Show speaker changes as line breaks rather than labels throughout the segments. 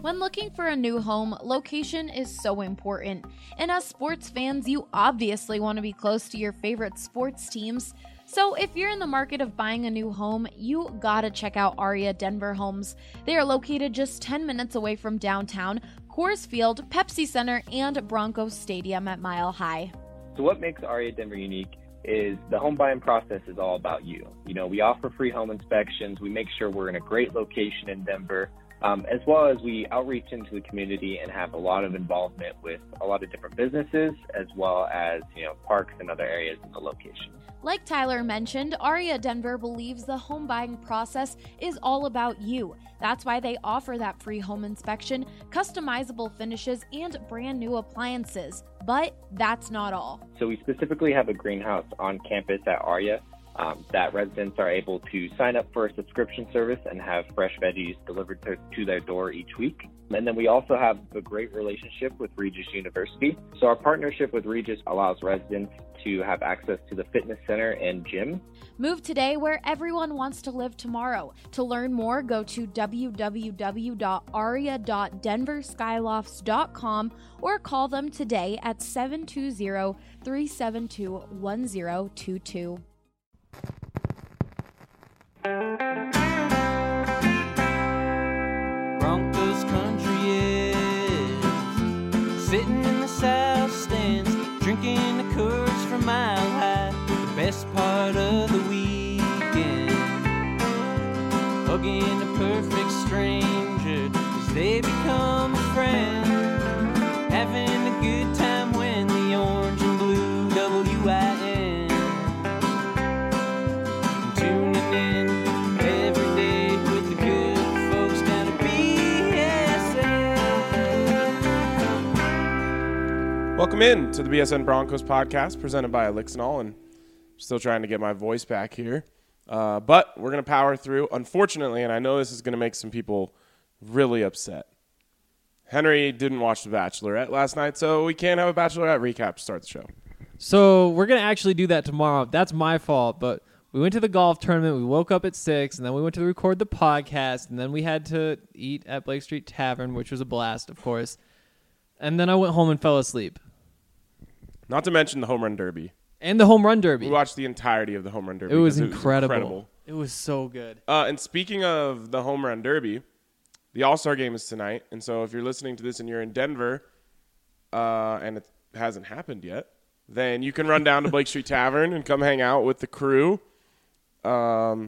When looking for a new home, location is so important. And as sports fans, you obviously want to be close to your favorite sports teams. So if you're in the market of buying a new home, you gotta check out Aria Denver Homes. They are located just 10 minutes away from downtown, Coors Field, Pepsi Center, and Broncos Stadium at Mile High.
So what makes Aria Denver unique is the home buying process is all about you. You know, we offer free home inspections. We make sure we're in a great location in Denver. As well as we outreach into the community and have a lot of involvement with a lot of different businesses, as well as, parks and other areas in the location.
Like Tyler mentioned, Aria Denver believes the home buying process is all about you. That's why they offer that free home inspection, customizable finishes, and brand new appliances. But that's not all.
So we specifically have a greenhouse on campus at Aria that residents are able to sign up for a subscription service and have fresh veggies delivered to their door each week. And then we also have a great relationship with Regis University. So our partnership with Regis allows residents to have access to the fitness center and gym.
Move today where everyone wants to live tomorrow. To learn more, go to www.aria.denverskyloft's.com or call them today at 720-372-1022.
Broncos country is sitting in the south stands, drinking the Coors from Mile High. The best part of the weekend, hugging a perfect stranger as they become a friend, having a good time when the orange and blue WIN.
Welcome in to the BSN Broncos podcast presented by Elixinol, and I'm still trying to get my voice back here. But we're going to power through. Unfortunately, and I know this is going to make some people really upset, Henry didn't watch The Bachelorette last night, so we can't have a Bachelorette recap to start the show.
So we're going to actually do that tomorrow. That's my fault, but we went to the golf tournament. We woke up at 6, and then we went to record the podcast, and then we had to eat at Blake Street Tavern, which was a blast, of course. And then I went home and fell asleep.
Not to mention the home run derby.
And the home run derby.
We watched the entirety of the home run derby.
It was incredible. It was so good.
And speaking of the home run derby, the All-Star game is tonight. And so if you're listening to this and you're in Denver and it hasn't happened yet, then you can run down to Blake Street Tavern and come hang out with the crew. We'll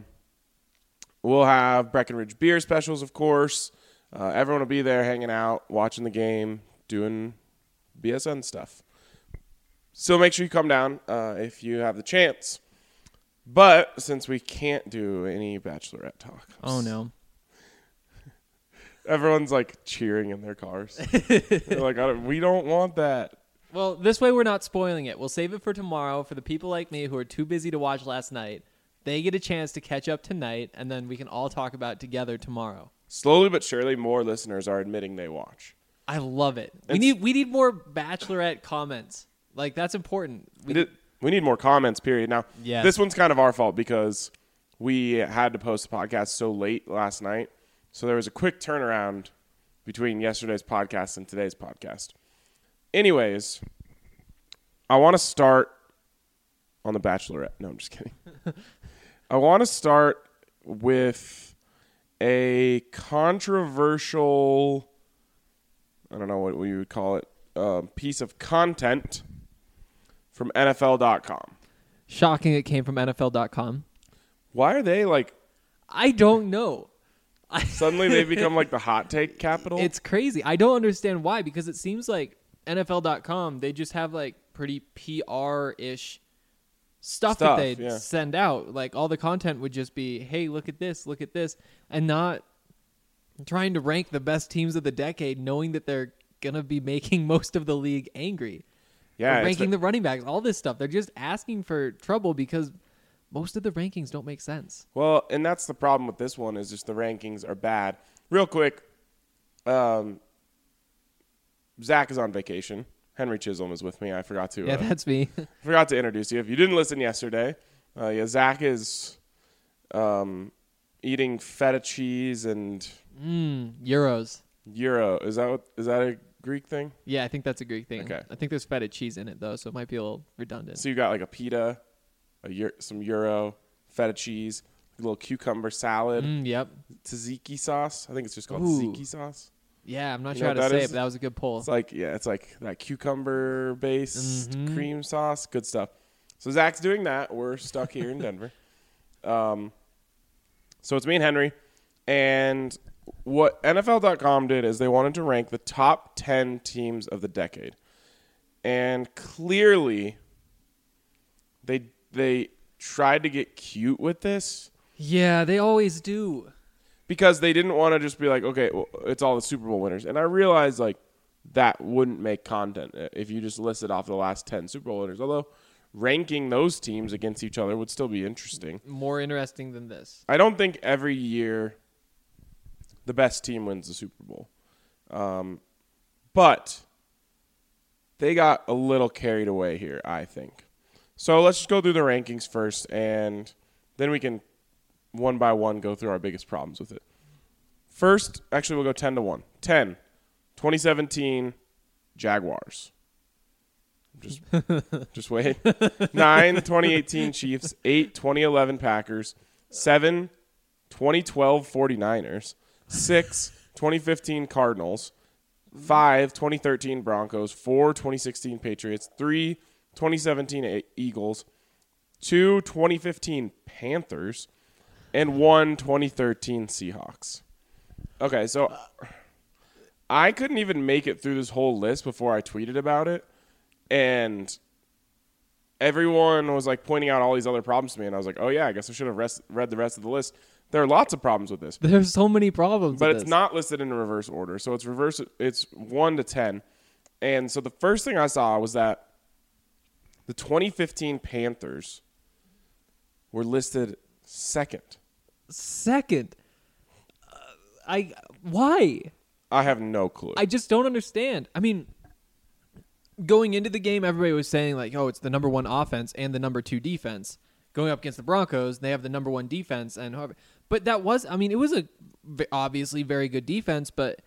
have Breckenridge beer specials, of course. Everyone will be there hanging out, watching the game, doing BSN stuff. So make sure you come down if you have the chance. But since we can't do any Bachelorette talk.
Oh, no.
Everyone's like cheering in their cars. They're like, we don't want that.
Well, this way we're not spoiling it. We'll save it for tomorrow for the people like me who are too busy to watch last night. They get a chance to catch up tonight, and then we can all talk about it together tomorrow.
Slowly but surely, more listeners are admitting they watch.
I love it. We need more Bachelorette comments. Like, that's important.
We need more comments, period. Now,
yes.
This one's kind of our fault because we had to post the podcast so late last night. So there was a quick turnaround between yesterday's podcast and today's podcast. Anyways, I want to start on the Bachelorette. No, I'm just kidding. I want to start with a controversial, I don't know what we would call it, piece of content from NFL.com.
Shocking it came from NFL.com.
Why are they like...
I don't know.
Suddenly they become like the hot take capital?
It's crazy. I don't understand why, because it seems like NFL.com, they just have like pretty PR-ish stuff that they'd send out. Like all the content would just be, hey, look at this, and not trying to rank the best teams of the decade, knowing that they're going to be making most of the league angry.
Yeah,
ranking the running backs, all this stuff. They're just asking for trouble because most of the rankings don't make sense.
Well, and that's the problem with this one is just the rankings are bad. Real quick, Zach is on vacation. Henry Chisholm is with me. I forgot to.
Yeah, that's me.
Forgot to introduce you. If you didn't listen yesterday, Zach is eating feta cheese and
gyros.
Euro. Is that a Greek thing?
Yeah, I think that's a Greek thing.
Okay.
I think there's feta cheese in it though, so it might be a little redundant.
So you got like a pita, some Euro, feta cheese, a little cucumber salad,
Yep.
tzatziki sauce. I think it's just called
Ooh.
tzatziki sauce.
Yeah, I'm not
You
sure
know
how
what
to
that
say
is?
it, but that was a good pull.
It's like that cucumber based
Mhm.
cream sauce. Good stuff. So Zach's doing that. We're stuck here in Denver. So it's me and Henry. And what NFL.com did is they wanted to rank the top 10 teams of the decade. And clearly they tried to get cute with this
Yeah, they always do.
because they didn't want to just be like, okay, well, it's all the Super Bowl winners. And I realized like that wouldn't make content if you just listed off the last 10 Super Bowl winners. Although ranking those teams against each other would still be interesting.
More interesting than this.
I don't think every year the best team wins the Super Bowl. But they got a little carried away here, I think. So let's just go through the rankings first, and then we can one by one go through our biggest problems with it. First, actually, we'll go 10 to 1. 10, 2017 Jaguars. Just wait. 9, 2018 Chiefs. 8, 2011 Packers. 7, 2012 49ers. 6, 2015 Cardinals. 5, 2013 Broncos. 4, 2016 Patriots. 3, 2017 Eagles. 2, 2015 Panthers. And 1, 2013 Seahawks. Okay, so I couldn't even make it through this whole list before I tweeted about it. And everyone was like pointing out all these other problems to me. And I was like, oh, yeah, I guess I should have read the rest of the list. There are lots of problems with this.
There's so many problems
But
with
it's
this.
not listed in a reverse order. So it's 1 to 10. And so the first thing I saw was that the 2015 Panthers were listed second.
Second. Why?
I have no clue.
I just don't understand. I mean, going into the game, everybody was saying like, oh, it's the number 1 offense and the number 2 defense. Going up against the Broncos, they have the number 1 defense. But that was, I mean, it was a obviously very good defense, but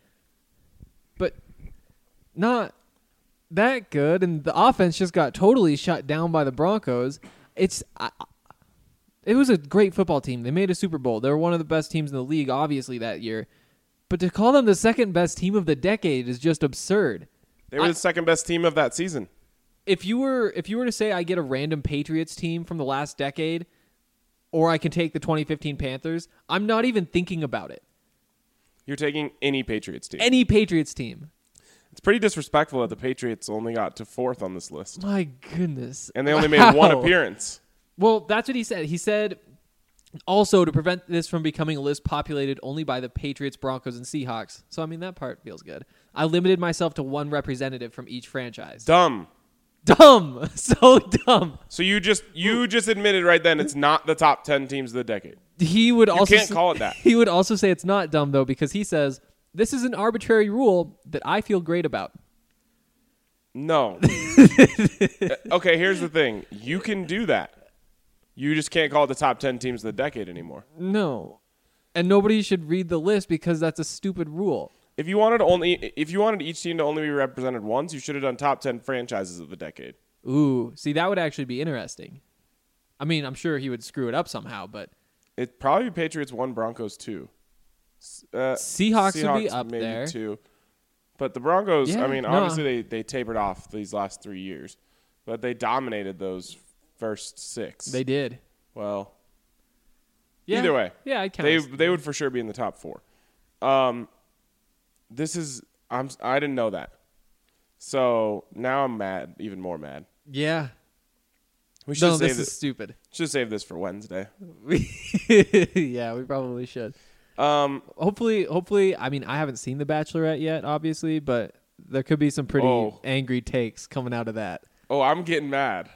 not that good. And the offense just got totally shut down by the Broncos. It was a great football team. They made a Super Bowl. They were one of the best teams in the league, obviously, that year. But to call them the second best team of the decade is just absurd.
They were the second best team of that season.
If you were to say I get a random Patriots team from the last decade, or I can take the 2015 Panthers, I'm not even thinking about it.
You're taking any Patriots team.
Any Patriots team.
It's pretty disrespectful that the Patriots only got to 4th on this list.
My goodness.
And they only made 1 appearance.
Well, that's what he said. He said also to prevent this from becoming a list populated only by the Patriots, Broncos, and Seahawks. So, I mean, that part feels good. I limited myself to 1 representative from each franchise.
Dumb.
So dumb.
So you just admitted right then it's not the top 10 teams of the decade.
He would also
can't call it that.
He would also say it's not dumb though, because he says this is an arbitrary rule that I feel great about.
No. Okay, here's the thing. You can do that. You just can't call it the top 10 teams of the decade anymore.
No. And nobody should read the list because that's a stupid rule.
If you wanted each team to only be represented once, you should have done top 10 franchises of the decade.
Ooh, see, that would actually be interesting. I mean, I'm sure he would screw it up somehow, but
It'd probably be Patriots 1, Broncos 2.
Seahawks would be up
maybe
there.
2. But the Broncos,
Yeah,
I mean,
no.
obviously they tapered off these last 3 years. But they dominated those first 6.
They did.
Well,
Yeah.
either way.
Yeah, I count.
They would for sure be in the top 4. I didn't know that. So now I'm mad, even more mad.
Yeah.
We should
This is stupid.
Should save this for Wednesday.
Yeah, we probably should. Hopefully, I mean, I haven't seen The Bachelorette yet, obviously, but there could be some pretty angry takes coming out of that.
Oh, I'm getting mad.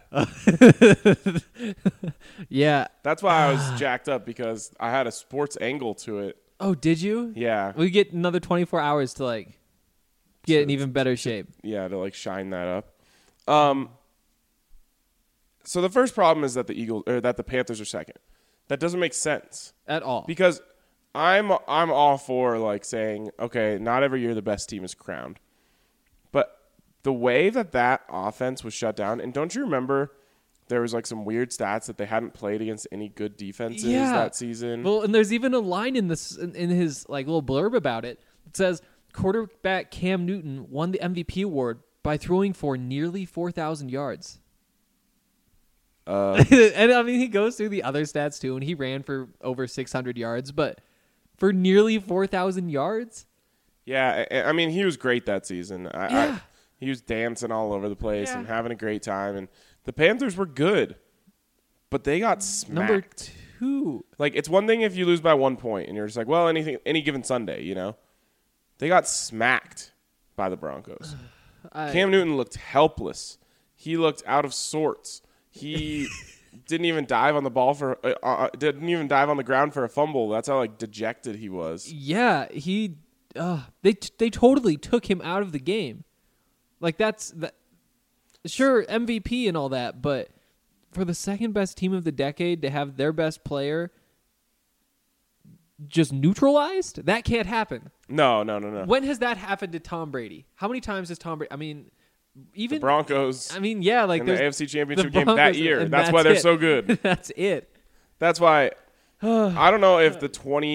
Yeah.
That's why I was jacked up, because I had a sports angle to it.
Oh, did you?
Yeah.
We get another 24 hours to like get in even better shape.
Yeah, to like shine that up. So the first problem is that the Panthers are second. That doesn't make sense
At all.
because I'm all for like saying, okay, not every year the best team is crowned. But the way that offense was shut down, and don't you remember there was like some weird stats that they hadn't played against any good defenses that season?
Well, and there's even a line in his like little blurb about it. It says quarterback Cam Newton won the MVP award by throwing for nearly 4,000 yards. And I mean, he goes through the other stats too, and he ran for over 600 yards, but for nearly 4,000 yards?
Yeah, I mean, he was great that season. He was dancing all over the place and having a great time, and the Panthers were good, but they got smacked.
Number 2.
Like, it's one thing if you lose by 1 point, and you're just like, well, any given Sunday, you know? They got smacked by the Broncos. Cam Newton looked helpless. He looked out of sorts. He didn't even dive on the ball didn't even dive on the ground for a fumble. That's how like dejected he was.
Yeah, they totally took him out of the game. Like sure, MVP and all that, but for the second best team of the decade to have their best player just neutralized, that can't happen.
No.
When has that happened to Tom Brady? How many times has Tom Brady? I mean, even
the Broncos.
I mean, yeah, like
in the AFC Championship
the
game that year. That's why they're so good.
That's it.
That's why I don't know if the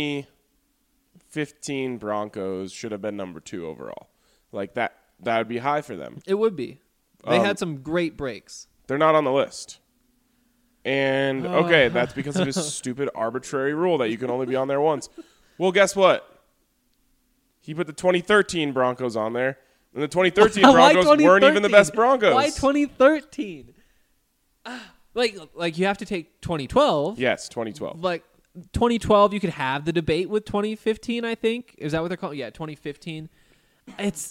2015 Broncos should have been number 2 overall. Like that would be high for them.
It would be. They had some great breaks.
They're not on the list. And okay, that's because of his stupid arbitrary rule that you can only be on there once. Well, guess what? He put the 2013 Broncos on there. And the 2013 Broncos weren't even the best Broncos.
Why 2013? Like you have to take 2012.
Yes, 2012.
Like 2012, you could have the debate with 2015, I think. Is that what they're calling? Yeah, 2015. It's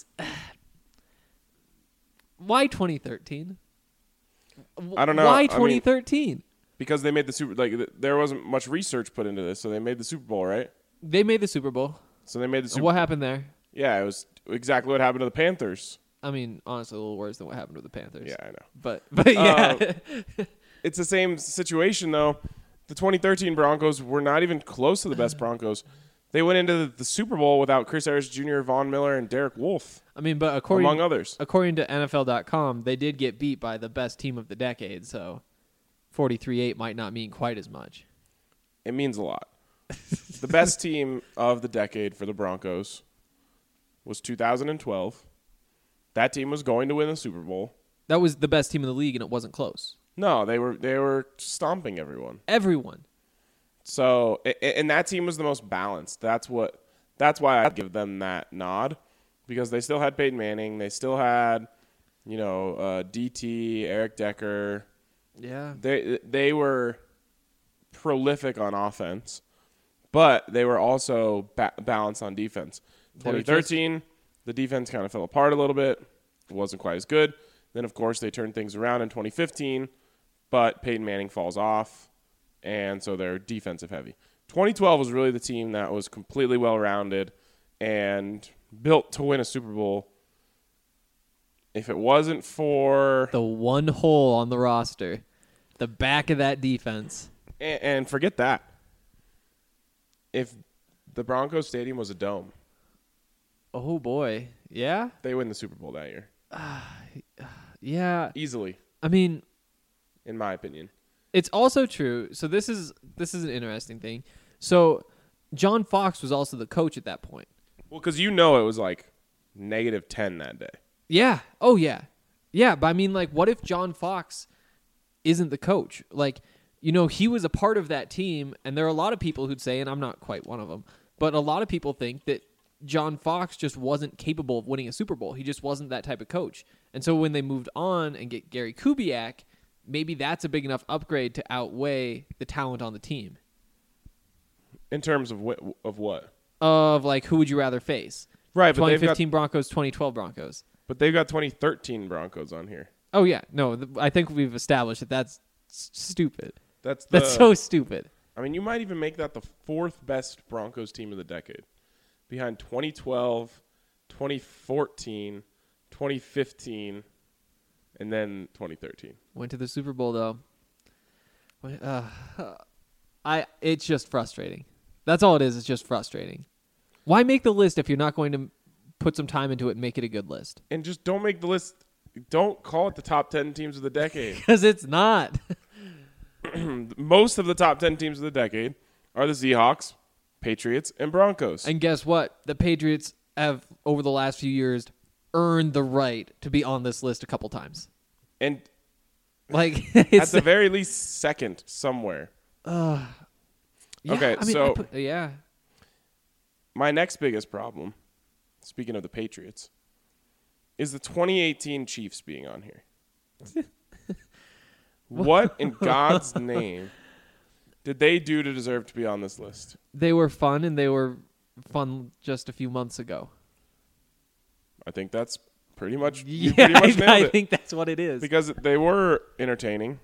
why 2013?
I don't know.
Why 2013?
Because they made the Super. Like there wasn't much research put into this, so they made the Super Bowl, right?
They made the Super Bowl.
So they made the Super.
What happened there?
Yeah, it was exactly what happened to the Panthers.
I mean, honestly, a little worse than what happened to the Panthers.
Yeah, I know.
But yeah.
It's the same situation, though. The 2013 Broncos were not even close to the best Broncos. They went into the Super Bowl without Chris Harris Jr., Von Miller, and Derek Wolfe.
I mean, but
among others.
According to NFL.com, they did get beat by the best team of the decade, so 43-8 might not mean quite as much.
It means a lot. The best team of the decade for the Broncos was 2012. That team was going to win the Super Bowl.
That was the best team in the league, and it wasn't close.
No, they were stomping everyone.
Everyone.
So, and that team was the most balanced. That's why I give them that nod, because they still had Peyton Manning. They still had, DT, Eric Decker.
Yeah.
They were prolific on offense, but they were also balanced on defense. 2013, the defense kind of fell apart a little bit. It wasn't quite as good. Then, of course, they turned things around in 2015, but Peyton Manning falls off, and so they're defensive heavy. 2012 was really the team that was completely well-rounded and built to win a Super Bowl. If it wasn't for
the one hole on the roster, the back of that defense.
And forget that. If the Broncos Stadium was a dome.
Oh, boy. Yeah?
They win the Super Bowl that year.
Yeah.
Easily.
I mean,
in my opinion.
It's also true. So this is an interesting thing. So John Fox was also the coach at that point.
Well, because it was like -10 that day.
Yeah. Oh, yeah. Yeah, but I mean, like, what if John Fox isn't the coach? Like, he was a part of that team, and there are a lot of people who'd say, and I'm not quite one of them, but a lot of people think that John Fox just wasn't capable of winning a Super Bowl. He just wasn't that type of coach. And so when they moved on and get Gary Kubiak, maybe that's a big enough upgrade to outweigh the talent on the team.
In terms of what?
Of, like, who would you rather face?
Right, but
2015 Broncos, 2012 Broncos.
But they've got 2013 Broncos on here.
Oh, yeah. No, I think we've established that that's stupid.
That's
so stupid.
I mean, you might even make that the 4th best Broncos team of the decade. Behind 2012, 2014, 2015, and then 2013.
Went to the Super Bowl, though. It's just frustrating. That's all it is. It's just frustrating. Why make the list if you're not going to put some time into it and make it a good list?
And just don't make the list. Don't call it the top 10 teams of the decade.
Because it's not.
Most of the top 10 teams of the decade are the Seahawks, Patriots, and Broncos.
And guess what? The Patriots have, over the last few years, earned the right to be on this list a couple times.
And
like
at the very least, second somewhere.
Yeah,
Okay,
I mean,
so
yeah.
my next biggest problem, speaking of the Patriots, is the 2018 Chiefs being on here. What in God's name did they do to deserve to be on this list?
They were fun, and they were fun just a few months ago.
I think that's pretty much
Yeah,
pretty much nailed
I
it.
think that's what it is.
Because they were entertaining,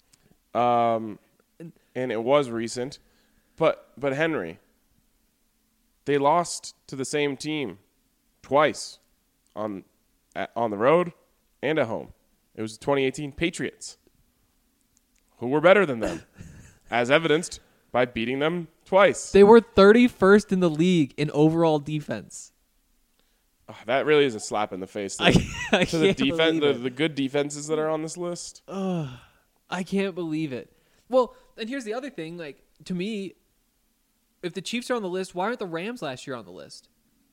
and it was recent. But Henry, they lost to the same team twice on the road and at home. It was the 2018 Patriots, who were better than them, as evidenced by beating them twice.
They were 31st in the league in overall defense.
Oh, that really is a slap in the face to
I
the
can't
defense,
believe it.
the good defenses that are on this list.
I can't believe it. Well, and here's the other thing. Like, to me, if the Chiefs are on the list, why aren't the Rams last year on the list?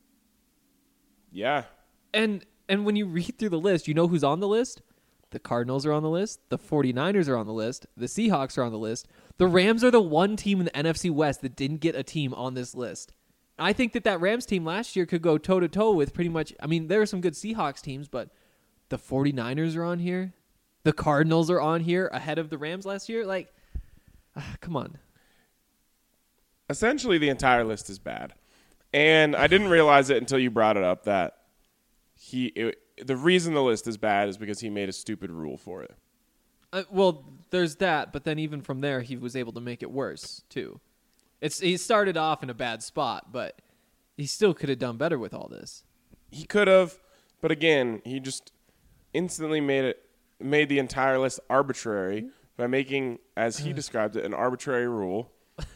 Yeah.
And when you read through the list, you know who's on the list? The Cardinals are on the list. The 49ers are on the list. The Seahawks are on the list. The Rams are the one team in the NFC West that didn't get a team on this list. I think that Rams team last year could go toe-to-toe with pretty much... I mean, there are some good Seahawks teams, but the 49ers are on here. The Cardinals are on here ahead of the Rams last year. Like, come on.
Essentially, the entire list is bad. And I didn't realize it until you brought it up that the reason the list is bad is because he made a stupid rule for it.
Well, there's that, but then even from there, he was able to make it worse, too. He started off in a bad spot, but he still could have done better with all this.
He could have, but again, he just instantly made the entire list arbitrary by making, as he described it, an arbitrary rule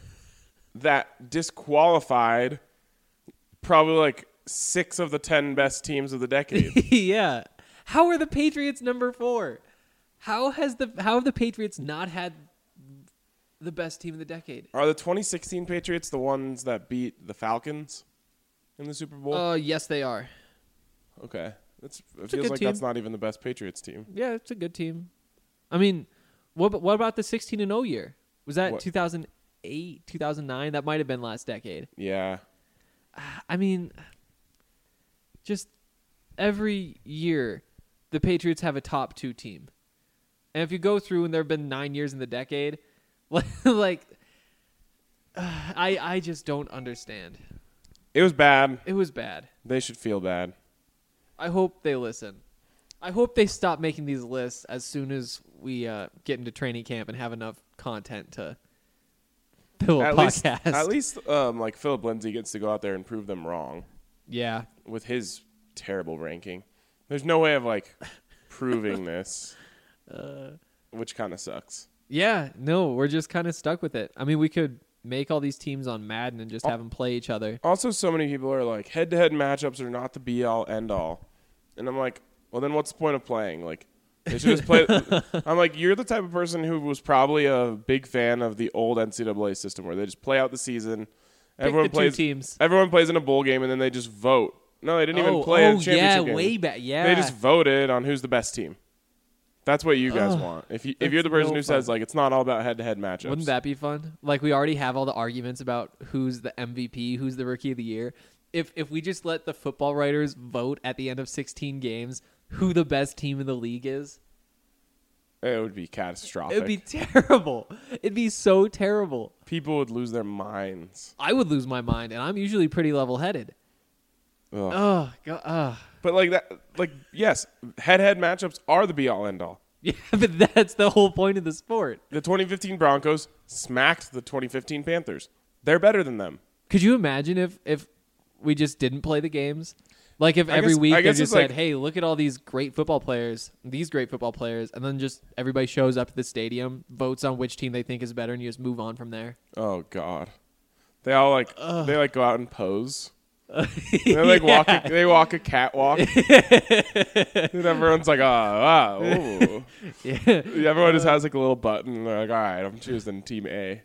that disqualified probably like 6 of the 10 best teams of the decade.
Yeah. How are the Patriots number 4? How have the Patriots not had the best team of the decade?
Are the 2016 Patriots the ones that beat the Falcons in the Super Bowl?
Yes, they are.
Okay. It
good
feels like
team.
that's not even the best Patriots team.
Yeah, it's a good team. I mean, what about the 16-0 year? Was that
What?
2008, 2009? That might have been last decade.
Yeah.
I mean, just every year, the Patriots have a top 2 team. And if you go through and there have been 9 years in the decade, like, I just don't understand.
It was bad.
It was bad.
They should feel bad.
I hope they listen. I hope they stop making these lists as soon as we get into training camp and have enough content to fill a podcast.
At least like Philip Lindsay gets to go out there and prove them wrong
Yeah.
with his terrible ranking. There's no way of like proving this, which kind of sucks.
Yeah, no, we're just kind of stuck with it. I mean, we could make all these teams on Madden and just have them play each other.
Also, so many people are like, head-to-head matchups are not the be-all, end-all. And I'm like, well, then what's the point of playing? Like, they should just play. I'm like, you're the type of person who was probably a big fan of the old NCAA system where they just play out the season.
Pick the 2 teams.
Everyone plays in a bowl game, and then they just vote. No, they didn't even play a championship game.
way back. Yeah.
They just voted on who's the best team. That's what you guys want. If you're the person who says like it's not all about head-to-head matchups.
Wouldn't that be fun? Like, we already have all the arguments about who's the MVP, who's the rookie of the year. If we just let the football writers vote at the end of 16 games who the best team in the league is,
It would be catastrophic.
it would be terrible. It'd be so terrible.
People would lose their minds.
I would lose my mind, and I'm usually pretty level-headed.
Ugh.
Oh, God.
But like that, like yes, head-to-head matchups are the be-all, end-all.
Yeah, but that's the whole point of the sport.
The 2015 Broncos smacked the 2015 Panthers. They're better than them.
Could you imagine if we just didn't play the games? Like if every week they just said, hey, look at all these great football players, and then just everybody shows up to the stadium, votes on which team they think is better, and you just move on from there.
Oh God, They all they go out and pose. They walk a catwalk. And everyone's like, ooh.
Yeah.
Everyone just has like a little button. They're like, all right, I'm choosing team A.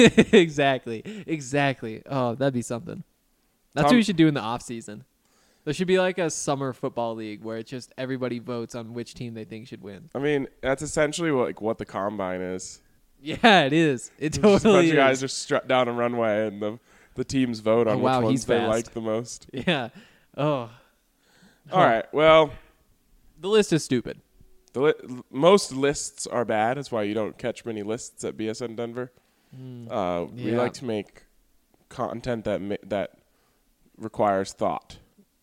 Exactly. Oh, that'd be something. That's what we should do in the off season. There should be like a summer football league where it's just everybody votes on which team they think should win.
I mean, that's essentially what the combine is.
Yeah, it is. It totally is.
A bunch of guys just strut down a runway and the teams vote on which ones they like the most.
Yeah. Oh.
All right. Well,
the list is stupid.
Most lists are bad. That's why you don't catch many lists at BSN Denver. We like to make content that requires thought.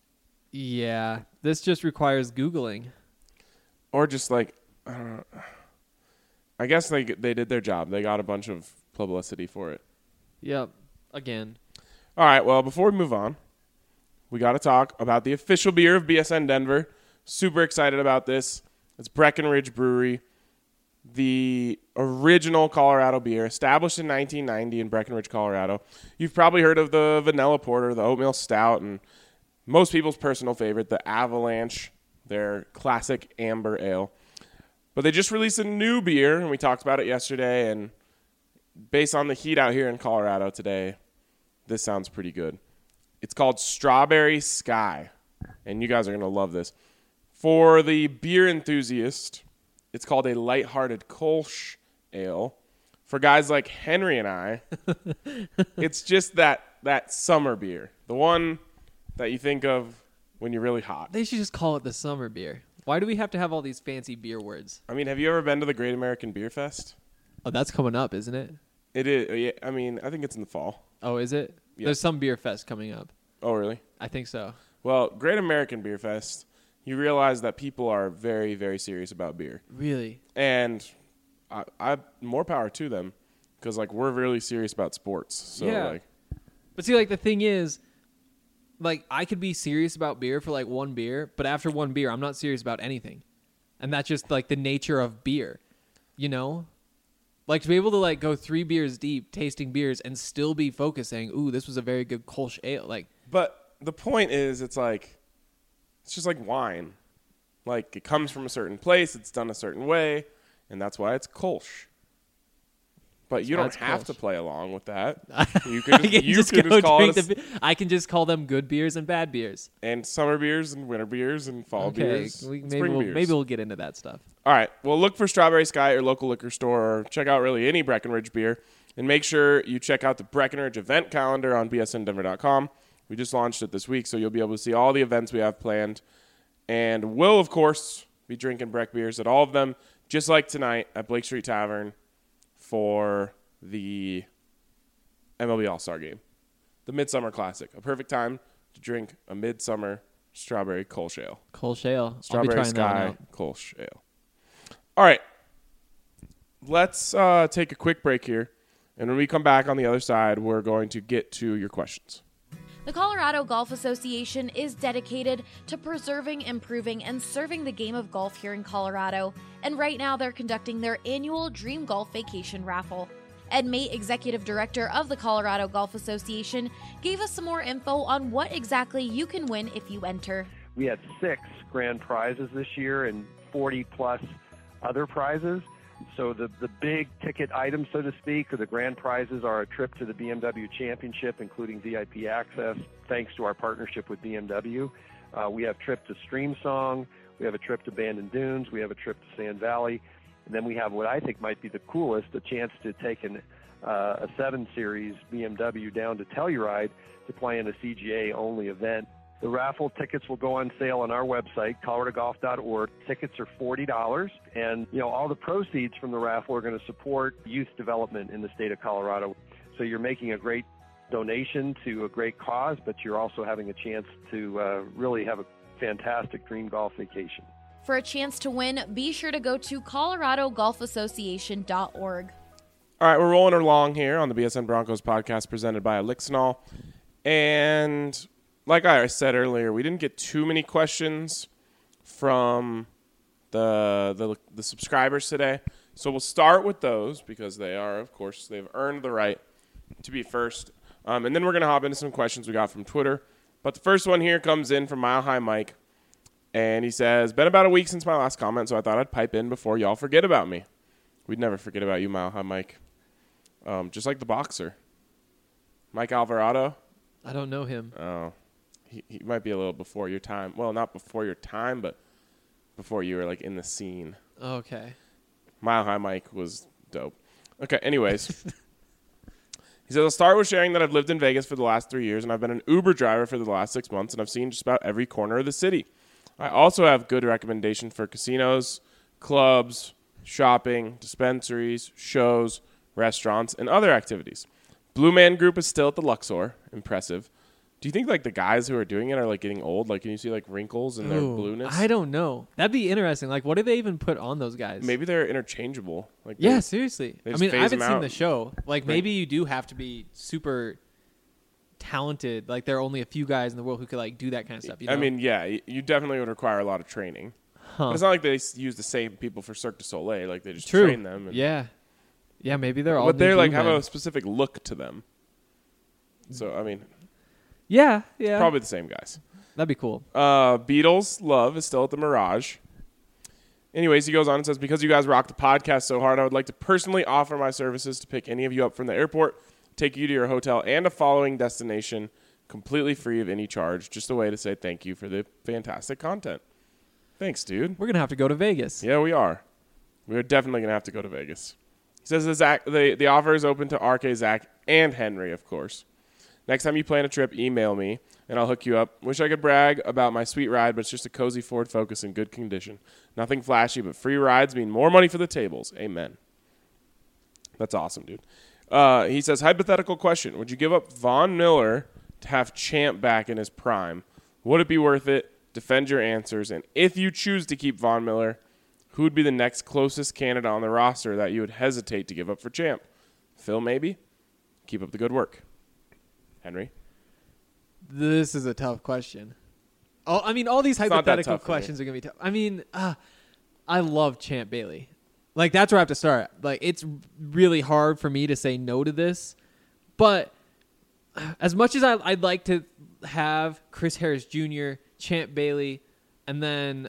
Yeah. This just requires Googling.
Or just like, I don't know. I guess they did their job. They got a bunch of publicity for it.
Yep. Again.
All right, well, before we move on, we got to talk about the official beer of BSN Denver. Super excited about this. It's Breckenridge Brewery, the original Colorado beer, established in 1990 in Breckenridge, Colorado. You've probably heard of the Vanilla Porter, the Oatmeal Stout, and most people's personal favorite, the Avalanche, their classic amber ale. But they just released a new beer, and we talked about it yesterday, and based on the heat out here in Colorado today, this sounds pretty good. It's called Strawberry Sky, and you guys are going to love this. For the beer enthusiast, it's called a lighthearted Kolsch ale. For guys like Henry and I, it's just that summer beer, the one that you think of when you're really hot.
They should just call it the summer beer. Why do we have to have all these fancy beer words?
I mean, have you ever been to the Great American Beer Fest?
Oh, that's coming up, isn't it?
It is. Yeah, I mean, I think it's in the fall.
Oh, is it? Yeah. There's some beer fest coming up.
Oh, really?
I think so.
Well, Great American Beer Fest, you realize that people are very, very serious about beer.
Really?
And I more power to them because, like, we're really serious about sports. So,
yeah. But see, like, the thing is, like, I could be serious about beer for, like, one beer, but after one beer, I'm not serious about anything. And that's just, like, the nature of beer, you know? Like, to be able to, like, go 3 beers deep, tasting beers, and still be focusing, ooh, this was a very good Kolsch ale. Like,
but the point is, it's just like wine. Like, it comes from a certain place, it's done a certain way, and that's why it's Kolsch. But you don't have to play along with that. You can just call it
I can just call them good beers and bad beers.
And summer beers and winter beers and fall beers.
Maybe we'll get into that stuff.
All right. Well, look for Strawberry Sky at your local liquor store, or check out really any Breckenridge beer. And make sure you check out the Breckenridge event calendar on bsndenver.com. We just launched it this week, so you'll be able to see all the events we have planned. And we'll, of course, be drinking Breck beers at all of them, just like tonight at Blake Street Tavern for the MLB All-Star Game. The Midsummer Classic. A perfect time to drink a midsummer strawberry Kolsch ale.
Kolsch ale.
Strawberry Sky Kolsch ale. All right. Let's take a quick break here. And when we come back on the other side, we're going to get to your questions.
The Colorado Golf Association is dedicated to preserving, improving, and serving the game of golf here in Colorado. And right now they're conducting their annual Dream Golf Vacation Raffle. Ed Mate, Executive Director of the Colorado Golf Association, gave us some more info on what exactly you can win if you enter.
We had 6 grand prizes this year and 40-plus other prizes. So the big ticket items, so to speak, or the grand prizes are a trip to the BMW Championship, including VIP access, thanks to our partnership with BMW. We have a trip to Streamsong. We have a trip to Bandon Dunes. We have a trip to Sand Valley. And then we have what I think might be the coolest, a chance to take a 7 Series BMW down to Telluride to play in a CGA-only event. The raffle tickets will go on sale on our website, coloradogolf.org. Tickets are $40, and all the proceeds from the raffle are going to support youth development in the state of Colorado. So you're making a great donation to a great cause, but you're also having a chance to really have a fantastic dream golf vacation.
For a chance to win, be sure to go to coloradogolfassociation.org.
All right, we're rolling along here on the BSN Broncos podcast presented by Elixinol. And like I said earlier, we didn't get too many questions from the subscribers today. So we'll start with those because they are, of course, they've earned the right to be first. And then we're going to hop into some questions we got from Twitter. But the first one here comes in from Mile High Mike. And he says, been about a week since my last comment, so I thought I'd pipe in before y'all forget about me. We'd never forget about you, Mile High Mike. Just like the boxer. Mike Alvarado.
I don't know him.
Oh, he might be a little before your time. Well, not before your time, but before you were like in the scene.
Okay.
Mile High Mike was dope. Okay, anyways. He says, I'll start with sharing that I've lived in Vegas for the last 3 years, and I've been an Uber driver for the last 6 months, and I've seen just about every corner of the city. I also have good recommendations for casinos, clubs, shopping, dispensaries, shows, restaurants, and other activities. Blue Man Group is still at the Luxor. Impressive. Do you think like the guys who are doing it are like getting old? Like, can you see like wrinkles in their blueness?
I don't know. That'd be interesting. Like, what do they even put on those guys?
Maybe they're interchangeable. Like,
yeah, seriously. I mean, I haven't seen
out.
the show. Like, maybe you do have to be super talented. Like, there are only a few guys in the world who could like do that kind of stuff. You know?
I mean, yeah, you definitely would require a lot of training. But it's not like they use the same people for Cirque du Soleil. Like, they just train them. And
yeah, maybe they're all.
But they like have a specific look to them. So I mean.
Yeah.
Probably the same guys.
That'd be cool.
Beatles Love is still at the Mirage. Anyways, he goes on and says, because you guys rock the podcast so hard, I would like to personally offer my services to pick any of you up from the airport, take you to your hotel and a following destination completely free of any charge. Just a way to say thank you for the fantastic content. Thanks, dude.
We're going to have to go to Vegas.
Yeah, we are. We're definitely going to have to go to Vegas. He says the offer is open to RK, Zach, and Henry, of course. Next time you plan a trip, email me, and I'll hook you up. Wish I could brag about my sweet ride, but it's just a cozy Ford Focus in good condition. Nothing flashy, but free rides mean more money for the tables. Amen. That's awesome, dude. He says, hypothetical question. Would you give up Von Miller to have Champ back in his prime? Would it be worth it? Defend your answers. And if you choose to keep Von Miller, who would be the next closest candidate on the roster that you would hesitate to give up for Champ? Phil, maybe? Keep up the good work. Henry?
This is a tough question. Oh, I mean, all these hypothetical questions are going to be tough. I mean, I love Champ Bailey. Like, that's where I have to start. Like, it's really hard for me to say no to this. But as much as I'd like to have Chris Harris Jr., Champ Bailey, and then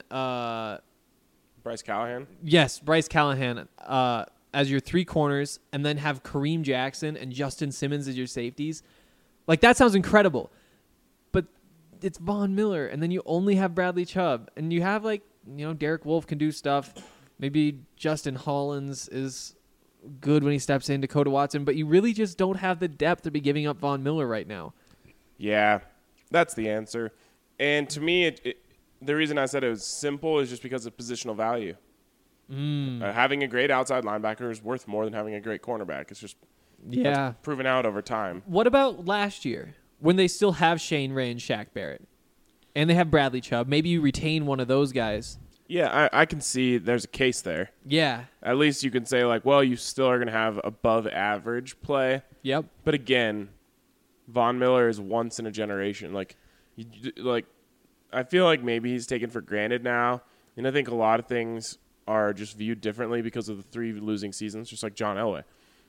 Bryce Callahan?
Yes, Bryce Callahan as your three corners, and then have Kareem Jackson and Justin Simmons as your safeties. Like, that sounds incredible. But it's Von Miller, and then you only have Bradley Chubb. And you have, like, you know, Derek Wolfe can do stuff. Maybe Justin Hollins is good when he steps in, Dakota Watson. But you really just don't have the depth to be giving up Von Miller right now.
Yeah, that's the answer. And to me, the reason I said it was simple is just because of positional value. Having a great outside linebacker is worth more than having a great cornerback. It's just...
Yeah.
Proven out over time.
What about last year when they still have Shane Ray and Shaq Barrett and they have Bradley Chubb? Maybe you retain one of those guys.
Yeah, I can see there's a case there.
Yeah.
At least you can say, like, well, you still are going to have above average play.
Yep.
But again, Von Miller is once in a generation. Like, I feel like maybe he's taken for granted now. And I think a lot of things are just viewed differently because of the 3 losing seasons, just like John Elway.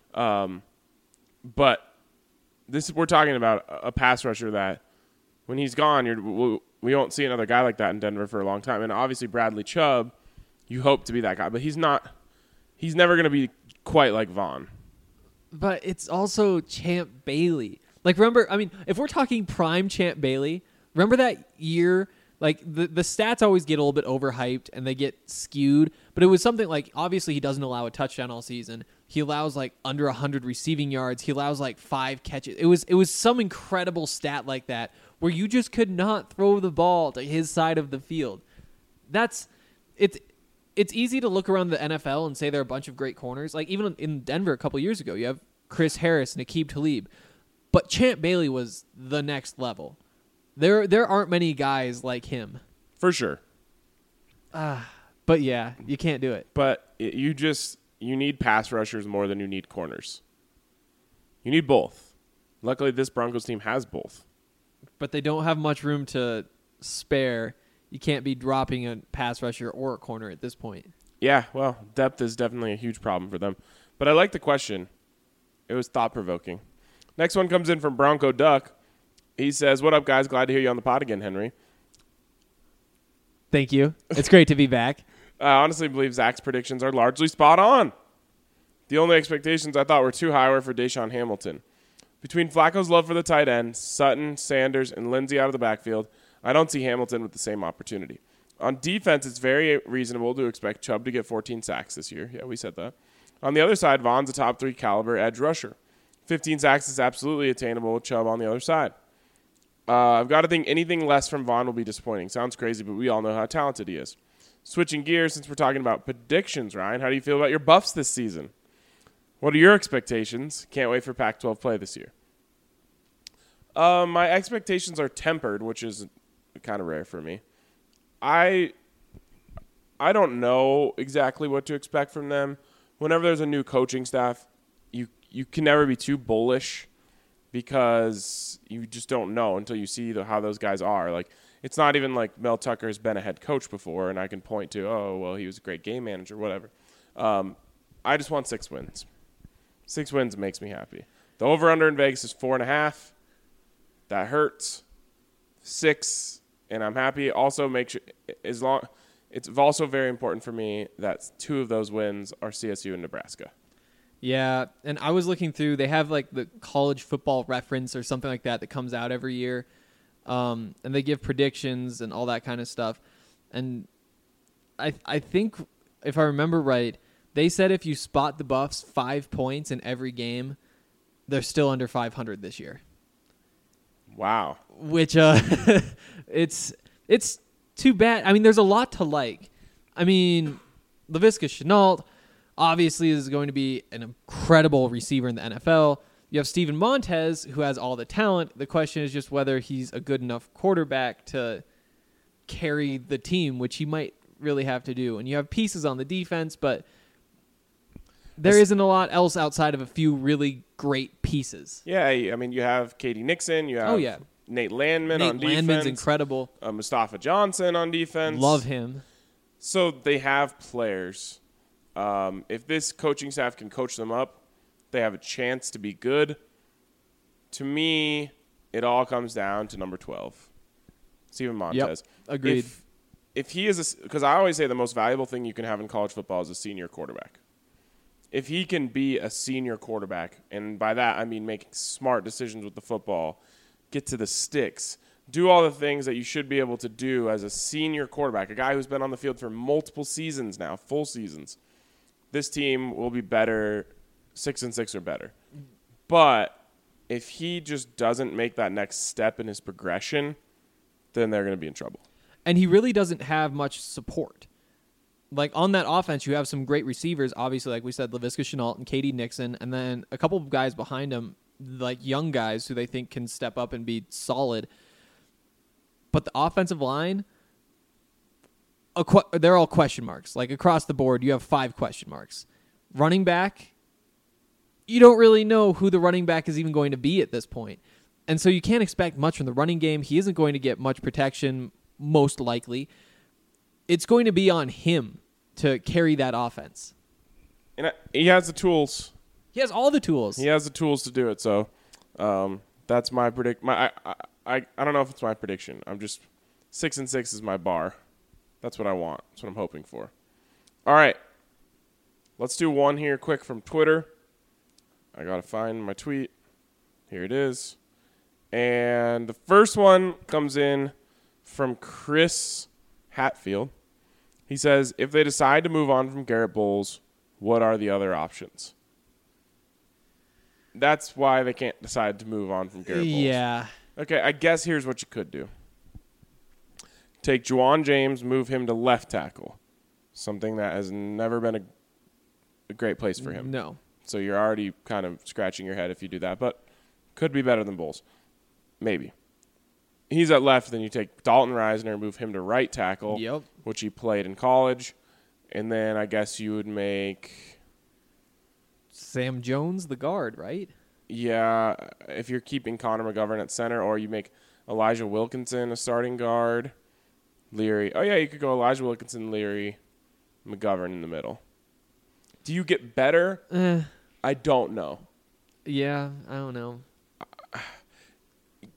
But we're talking about a pass rusher that when he's gone, we won't see another guy like that in Denver for a long time. And obviously Bradley Chubb, you hope to be that guy, but he's not. He's never going to be quite like Von.
But it's also Champ Bailey. Like, remember, I mean, if we're talking prime Champ Bailey, remember that year? Like, the stats always get a little bit overhyped and they get skewed. But it was something like, obviously, he doesn't allow a touchdown all season. He allows, like, under 100 receiving yards. He allows, like, 5 catches. It was some incredible stat like that where you just could not throw the ball to his side of the field. It's easy to look around the NFL and say there are a bunch of great corners. Like, even in Denver a couple years ago, you have Chris Harris and Aqib Talib. But Champ Bailey was the next level. There aren't many guys like him.
For sure.
But yeah, you can't do it.
But you need pass rushers more than you need corners. You need both. Luckily, this Broncos team has both.
But they don't have much room to spare. You can't be dropping a pass rusher or a corner at this point.
Yeah, well, depth is definitely a huge problem for them. But I like the question. It was thought-provoking. Next one comes in from Bronco Duck. He says, "What up, guys? Glad to hear you on the pod again, Henry."
Thank you. It's great to be back.
I honestly believe Zach's predictions are largely spot on. The only expectations I thought were too high were for Deshaun Hamilton. Between Flacco's love for the tight end, Sutton, Sanders, and Lindsey out of the backfield, I don't see Hamilton with the same opportunity. On defense, it's very reasonable to expect Chubb to get 14 sacks this year. Yeah, we said that. On the other side, Vaughn's a top 3 caliber edge rusher. 15 sacks is absolutely attainable with Chubb on the other side. I've got to think anything less from Vaughn will be disappointing. Sounds crazy, but we all know how talented he is. Switching gears, since we're talking about predictions, Ryan, how do you feel about your Buffs this season? What are your expectations? Can't wait for Pac-12 play this year. My expectations are tempered, which is kind of rare for me. I don't know exactly what to expect from them. Whenever there's a new coaching staff, you can never be too bullish because you just don't know until you see how those guys are. Like, it's not even like Mel Tucker has been a head coach before, and I can point to, oh, well, he was a great game manager, whatever. I just want 6 wins. 6 wins makes me happy. The over-under in Vegas is 4.5. That hurts. 6, and I'm happy. Also, make sure it's also very important for me that 2 of those wins are CSU and Nebraska.
Yeah, and I was looking through. They have like the college football reference or something like that comes out every year, and they give predictions and all that kind of stuff. And I think if I remember right, they said if you spot the Buffs 5 points in every game, they're still under 500 this year.
Wow.
Which it's too bad. I mean, there's a lot to like. I mean, Laviska Shenault obviously is going to be an incredible receiver in the NFL. You have Steven Montez, who has all the talent. The question is just whether he's a good enough quarterback to carry the team, which he might really have to do. And you have pieces on the defense, but there isn't a lot else outside of a few really great pieces.
Yeah, I mean, you have Katie Nixon. You have Nate Landman on defense. Nate
Landman's incredible.
Mustafa Johnson on defense.
Love him.
So they have players. If this coaching staff can coach them up, they have a chance to be good. To me, it all comes down to number 12, Steven Montez.
Yep, agreed.
If he is because I always say the most valuable thing you can have in college football is a senior quarterback. If he can be a senior quarterback, and by that I mean making smart decisions with the football, get to the sticks, do all the things that you should be able to do as a senior quarterback, a guy who's been on the field for multiple seasons now, full seasons, this team will be better, 6-6 or better. But if he just doesn't make that next step in his progression, then they're going to be in trouble.
And he really doesn't have much support. Like, on that offense, you have some great receivers, obviously, like we said, Laviska Shenault and Katie Nixon, and then a couple of guys behind him, like young guys who they think can step up and be solid. But the offensive line, they're all question marks. Like, across the board, you have 5 question marks. Running back, you don't really know who the running back is even going to be at this point. And so you can't expect much from the running game. He isn't going to get much protection, most likely. It's going to be on him to carry that offense.
And he has the tools.
He has all the tools.
He has the tools to do it. So that's my predict. I don't know if it's my prediction. I'm just 6-6 is my bar. That's what I want. That's what I'm hoping for. All right. Let's do one here quick from Twitter. I got to find my tweet. Here it is. And the first one comes in from Chris Hatfield. He says, if they decide to move on from Garrett Bowles, what are the other options? That's why they can't decide to move on from Garrett Bowles.
Yeah.
Okay, I guess here's what you could do. Take Juwan James, move him to left tackle, something that has never been a great place for him.
No.
So you're already kind of scratching your head if you do that, but could be better than Bowles. Maybe. He's at left, then you take Dalton Reisner, move him to right tackle, which he played in college, and then I guess you would make
Sam Jones the guard, right?
Yeah, if you're keeping Connor McGovern at center, or you make Elijah Wilkinson a starting guard, Leary. Oh, yeah, you could go Elijah Wilkinson, Leary, McGovern in the middle. Do you get better? I don't know.
Yeah, I don't know.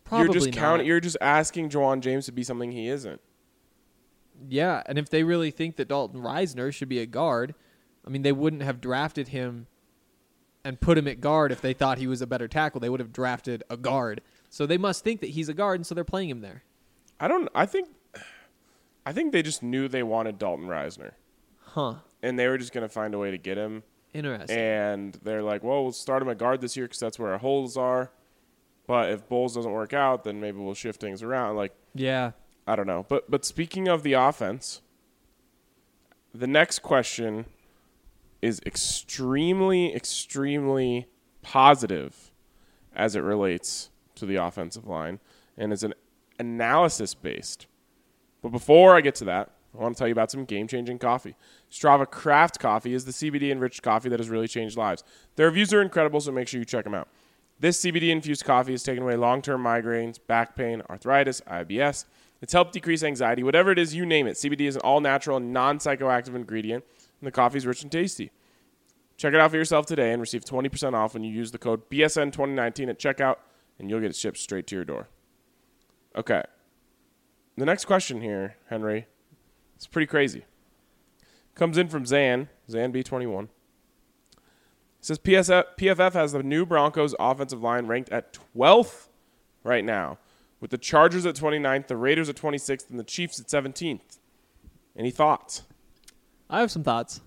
Probably not.
You're just asking Juwan James to be something he isn't.
Yeah, and if they really think that Dalton Risner should be a guard, I mean, they wouldn't have drafted him and put him at guard if they thought he was a better tackle. They would have drafted a guard. So they must think that he's a guard, and so they're playing him there.
I think they just knew they wanted Dalton Risner.
Huh.
And they were just going to find a way to get him.
Interesting.
And they're like, well, we'll start him at guard this year because that's where our holes are. But if Bowles doesn't work out, then maybe we'll shift things around. Like,
yeah.
I don't know. But speaking of the offense, the next question is extremely, extremely positive as it relates to the offensive line, and it's an analysis-based. But before I get to that, I want to tell you about some game-changing coffee. Strava Craft Coffee is the CBD-enriched coffee that has really changed lives. Their reviews are incredible, so make sure you check them out. This CBD-infused coffee has taken away long-term migraines, back pain, arthritis, IBS. It's helped decrease anxiety. Whatever it is, you name it. CBD is an all-natural, non-psychoactive ingredient, and the coffee is rich and tasty. Check it out for yourself today and receive 20% off when you use the code BSN2019 at checkout, and you'll get it shipped straight to your door. Okay. The next question here, Henry, it's pretty crazy. Comes in from Zan B21. It says PFF has the new Broncos offensive line ranked at 12th right now, with the Chargers at 29th, the Raiders at 26th, and the Chiefs at 17th. Any thoughts?
I have some thoughts.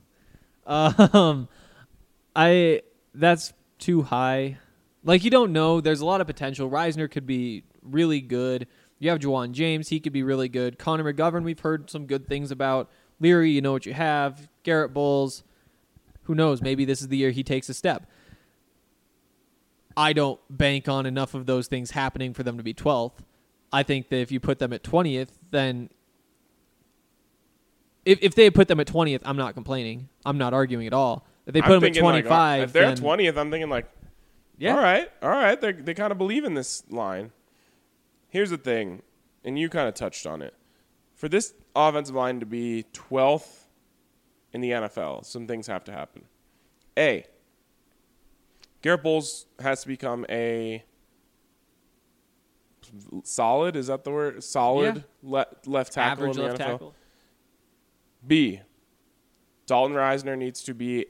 That's too high. Like, you don't know. There's a lot of potential. Risner could be really good. You have Juwan James. He could be really good. Connor McGovern, we've heard some good things about. Leary, you know what you have. Garrett Bowles, who knows? Maybe this is the year he takes a step. I don't bank on enough of those things happening for them to be 12th. I think that if you put them at 20th, then if they put them at 20th, I'm not complaining. I'm not arguing at all. If they put them at 25,
like, if they're at 20th, I'm thinking like,
yeah,
all right. They kind of believe in this line. Here's the thing, and you kind of touched on it. For this offensive line to be 12th in the NFL, some things have to happen. A, Garrett Bowles has to become a solid, is that the word? Solid left tackle
average
in the
left
NFL.
Tackle.
B, Dalton Risner needs to be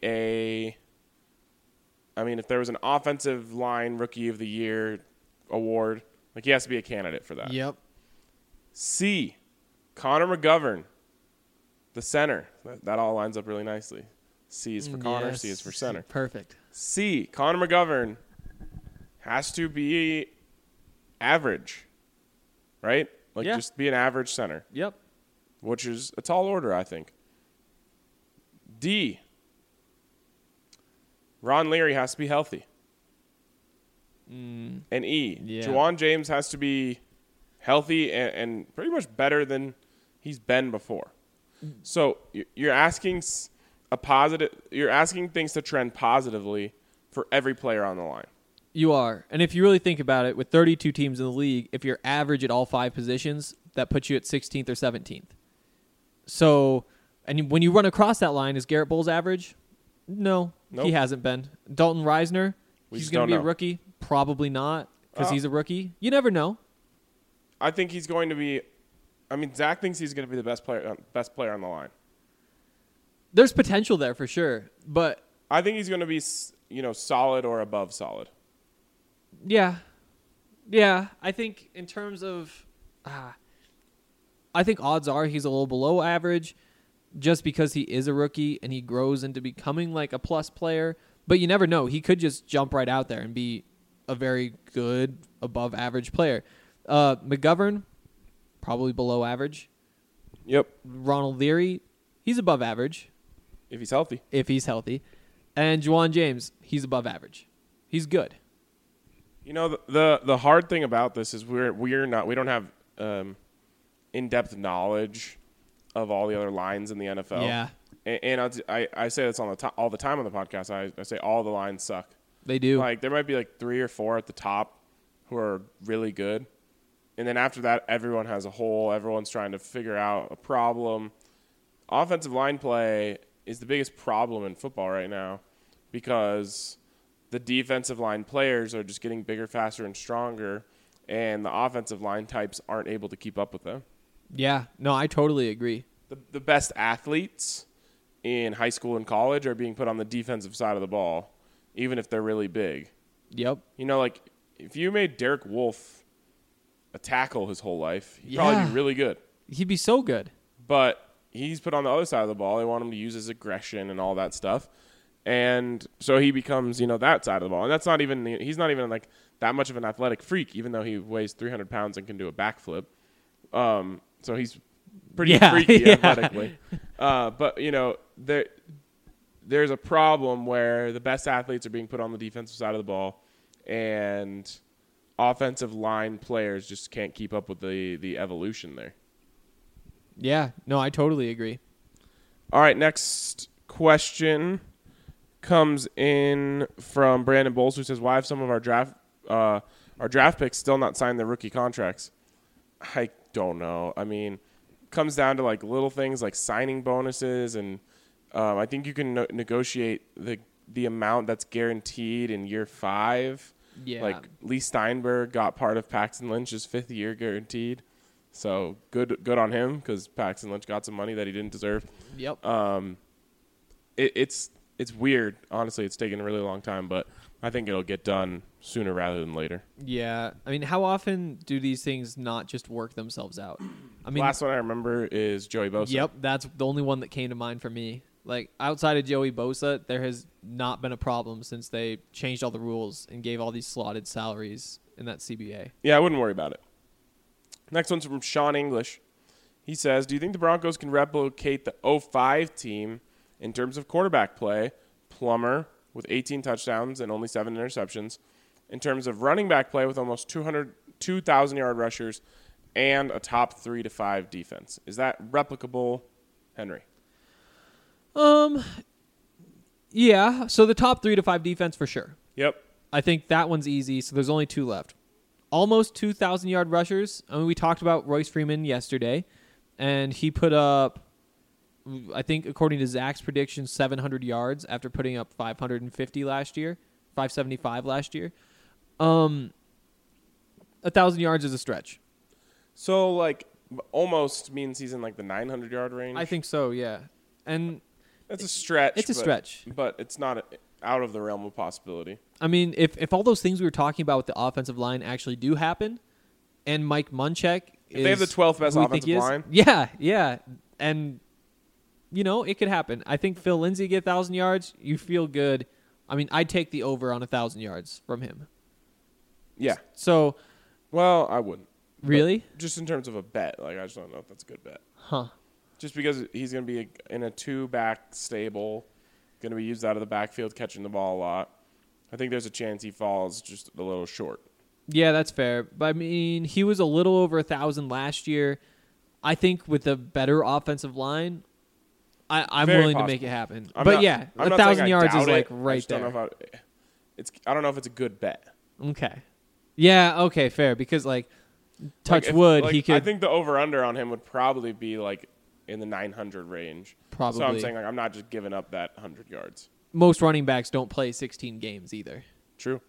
if there was an offensive line rookie of the year award, like he has to be a candidate for that.
Yep.
C, Connor McGovern, the center. That all lines up really nicely. C is for Connor,
yes.
C is for center.
Perfect.
C, Connor McGovern has to be average, right? Like just be an average center.
Yep.
Which is a tall order, I think. D, Ron Leary has to be healthy. And E, Juwan James has to be healthy and pretty much better than he's been before. So you're asking you're asking things to trend positively for every player on the line.
You are. And if you really think about it, with 32 teams in the league, if you're average at all 5 positions, that puts you at 16th or 17th. So, and when you run across that line, is Garrett Bowles average? No, nope. He hasn't been. Dalton Risner, he's going to be a rookie? Probably not, because he's a rookie. You never know.
I think he's going to be. Zach thinks he's going to be the best player on the line.
There's potential there for sure, but
I think he's going to be, solid or above solid.
Yeah. I think in terms of, I think odds are he's a little below average, just because he is a rookie and he grows into becoming like a plus player. But you never know. He could just jump right out there and be a very good, above average player. McGovern, probably below average.
Yep.
Ronald Leary, he's above average.
If he's healthy.
And Juwan James, he's above average. He's good.
The hard thing about this is we don't have in-depth knowledge of all the other lines in the NFL.
Yeah.
And I say this all the time on the podcast. I say all the lines suck.
They do.
Like, there might be like 3 or 4 at the top who are really good. And then after that, everyone has a hole. Everyone's trying to figure out a problem. Offensive line play is the biggest problem in football right now because the defensive line players are just getting bigger, faster, and stronger. and the offensive line types aren't able to keep up with them.
Yeah, no, I totally agree.
The best athletes in high school and college are being put on the defensive side of the ball, even if they're really big.
Yep.
You know, like if you made Derek Wolfe a tackle his whole life, he'd probably be really good.
He'd be so good.
But he's put on the other side of the ball. They want him to use his aggression and all that stuff. And so he becomes, that side of the ball. And he's not even like that much of an athletic freak, even though he weighs 300 pounds and can do a backflip. So he's pretty freaky athletically. But, there's a problem where the best athletes are being put on the defensive side of the ball, and offensive line players just can't keep up with the evolution there.
Yeah, no, I totally agree.
All right, next question comes in from Brandon Bowles, who says, why have some of our draft picks still not signed their rookie contracts? I don't know. I mean, it comes down to like little things like signing bonuses, and I think you can negotiate the amount that's guaranteed in year 5.
Yeah.
Like Lee Steinberg got part of Paxton Lynch's 5th year guaranteed. So good on him, because Paxton Lynch got some money that he didn't deserve.
Yep.
It's weird. Honestly, it's taken a really long time, but I think it'll get done sooner rather than later.
Yeah. I mean, how often do these things not just work themselves out? I mean,
last one I remember is Joey Bosa.
Yep, that's the only one that came to mind for me. Like, outside of Joey Bosa, there has not been a problem since they changed all the rules and gave all these slotted salaries in that CBA.
Yeah, I wouldn't worry about it. Next one's from Sean English. He says, do you think the Broncos can replicate the 05 team in terms of quarterback play? Plummer with 18 touchdowns and only 7 interceptions. In terms of running back play with almost 2,000-yard rushers and a top 3 to 5 defense. Is that replicable, Henry?
Yeah. So the top 3 to 5 defense for sure.
Yep.
I think that one's easy. So there's only 2 left. Almost 2,000-yard rushers. I mean, we talked about Royce Freeman yesterday, and he put up, I think, according to Zach's predictions, 700 yards after putting up 550 last year, 575 last year. 1,000 yards is a stretch.
So, like, almost means he's in, like, the 900-yard range?
I think so, yeah. And
it's a stretch.
It's a stretch.
But it's not out of the realm of possibility.
I mean, if all those things we were talking about with the offensive line actually do happen, and Mike Munchak
if they have the 12th best offensive line.
Yeah. And, it could happen. I think Phil Lindsay get 1,000 yards. You feel good. I mean, I'd take the over on 1,000 yards from him.
Yeah.
So.
Well, I wouldn't.
Really?
But just in terms of a bet. Like, I just don't know if that's a good bet.
Huh.
Just because he's going to be in a 2-back stable, going to be used out of the backfield, catching the ball a lot. I think there's a chance he falls just a little short.
Yeah, that's fair. But, I mean, he was a little over 1,000 last year. I think with a better offensive line, I'm
Very
willing
possible.
to make it happen.
I'm
but,
not,
yeah,
I'm
1,000 yards is,
it.
like,
I
right
just
there.
Don't know I don't know if it's a good bet.
Okay. Yeah, okay, fair. Because, like, wood, he could.
I think the over-under on him would probably be, like, in the 900 range.
Probably.
So I'm saying, like, I'm not just giving up that 100 yards.
Most running backs don't play 16 games either.
True.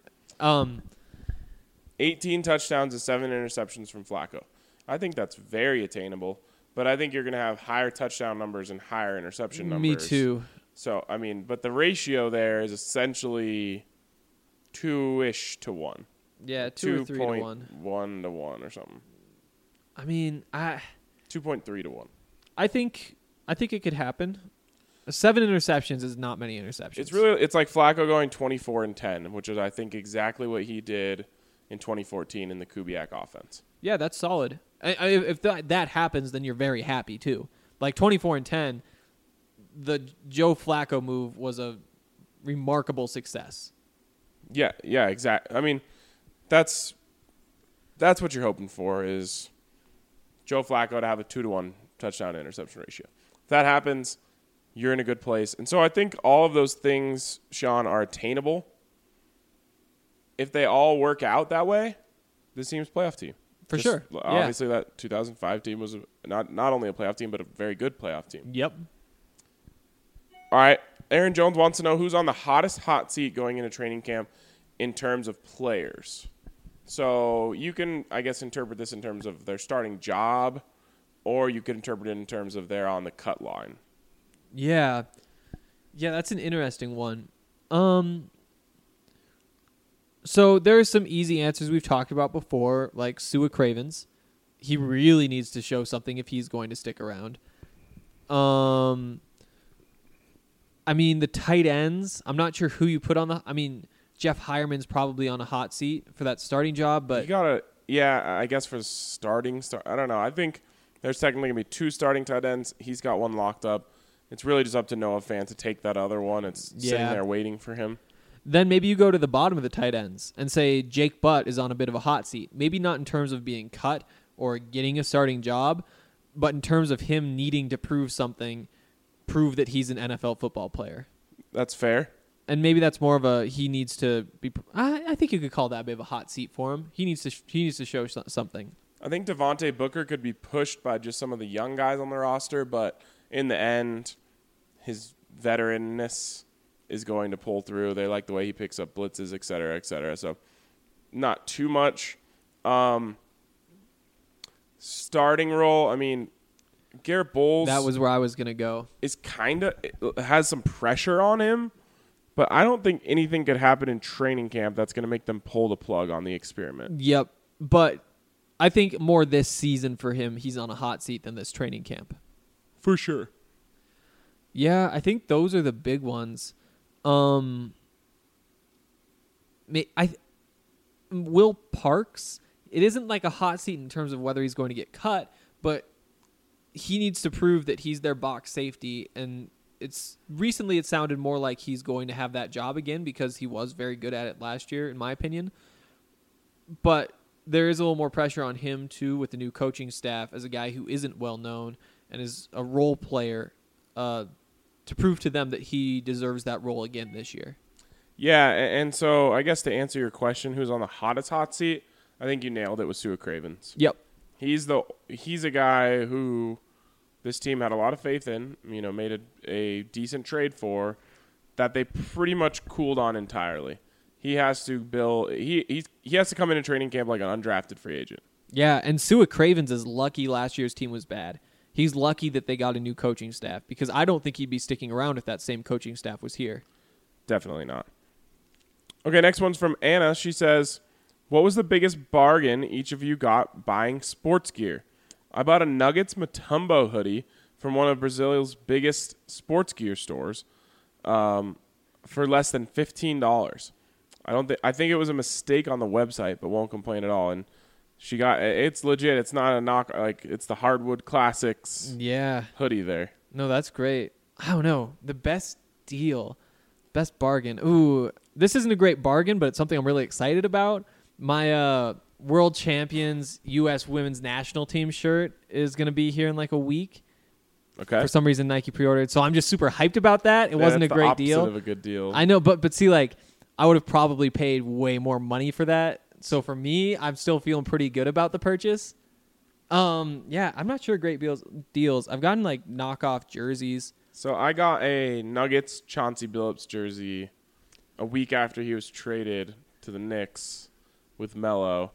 18 touchdowns and 7 interceptions from Flacco. I think that's very attainable, but I think you're going to have higher touchdown numbers and higher interception numbers.
Me too.
So, I mean, but the ratio there is essentially 2-ish to 1.
Yeah, 2 or 3 to 1.
1 to 1 or something.
I mean,
2.3 to 1.
I think it could happen. 7 interceptions is not many interceptions.
It's like Flacco going 24-10, which is I think exactly what he did in 2014 in the Kubiak offense.
Yeah, that's solid. If that happens, then you're very happy too. Like 24-10, the Joe Flacco move was a remarkable success.
Yeah, exactly. I mean, that's what you're hoping for is Joe Flacco to have a 2-to-1 touchdown to interception ratio. If that happens, you're in a good place. And so I think all of those things, Sean, are attainable. If they all work out that way, this team's a playoff team.
For sure.
Obviously, that 2005 team was not only a playoff team, but a very good playoff team.
Yep.
All right. Aaron Jones wants to know who's on the hottest hot seat going into training camp in terms of players. So you can, I guess, interpret this in terms of their starting job, or you could interpret it in terms of they're on the cut line.
Yeah. Yeah, that's an interesting one. So there are some easy answers we've talked about before, like Sua Cravens. He really needs to show something if he's going to stick around. I mean, the tight ends, I'm not sure who you put on the... I mean, Jeff Hireman's probably on a hot seat for that starting job, but...
You gotta... Yeah, I guess for starting... I don't know. I think there's technically going to be 2 starting tight ends. He's got one locked up. It's really just up to Noah Fant to take that other one. It's sitting there waiting for him.
Then maybe you go to the bottom of the tight ends and say Jake Butt is on a bit of a hot seat. Maybe not in terms of being cut or getting a starting job, but in terms of him needing to prove something, prove that he's an NFL football player.
That's fair.
And maybe that's more of a he needs to be. I think you could call that a bit of a hot seat for him. He needs to show something.
I think Devontae Booker could be pushed by just some of the young guys on the roster, but in the end, his veteranness is going to pull through. They like the way he picks up blitzes, et cetera, et cetera. So not too much. Starting role, I mean, Garrett Bowles.
That was where I was going to go.
Is kind of has some pressure on him, but I don't think anything could happen in training camp that's going to make them pull the plug on the experiment.
Yep. But I think more this season for him, he's on a hot seat than this training camp.
For sure.
Yeah, I think those are the big ones. Will Parks, it isn't like a hot seat in terms of whether he's going to get cut, but he needs to prove that he's their box safety, and it sounded more like he's going to have that job again because he was very good at it last year, in my opinion. But there is a little more pressure on him too with the new coaching staff as a guy who isn't well known and is a role player, to prove to them that he deserves that role again this year.
Yeah, and so I guess to answer your question, who's on the hottest hot seat, I think you nailed it with Sua Cravens.
Yep.
He's a guy who this team had a lot of faith in, made a decent trade for, that they pretty much cooled on entirely. He has to build he has to come into training camp like an undrafted free agent.
Yeah, and Sua Cravens is lucky last year's team was bad. He's lucky that they got a new coaching staff because I don't think he'd be sticking around if that same coaching staff was here.
Definitely not. Okay, next one's from Anna. She says, what was the biggest bargain each of you got buying sports gear? I bought a Nuggets Mutombo hoodie from one of Brazil's biggest sports gear stores for less than $15. I think it was a mistake on the website, but won't complain at all. And it's legit. It's not a knock. Like, it's the Hardwood Classics hoodie there.
No, that's great. I don't know. The best deal, best bargain. Ooh, this isn't a great bargain, but it's something I'm really excited about. My World Champions U.S. Women's National Team shirt is going to be here in like a week.
Okay.
For some reason, Nike pre-ordered. So I'm just super hyped about that. It wasn't a great deal.
Of a good deal.
I know, but see, like, I would have probably paid way more money for that. So for me, I'm still feeling pretty good about the purchase. Yeah, I'm not sure great deals. I've gotten like knockoff jerseys.
So I got a Nuggets Chauncey Billups jersey a week after he was traded to the Knicks with Melo,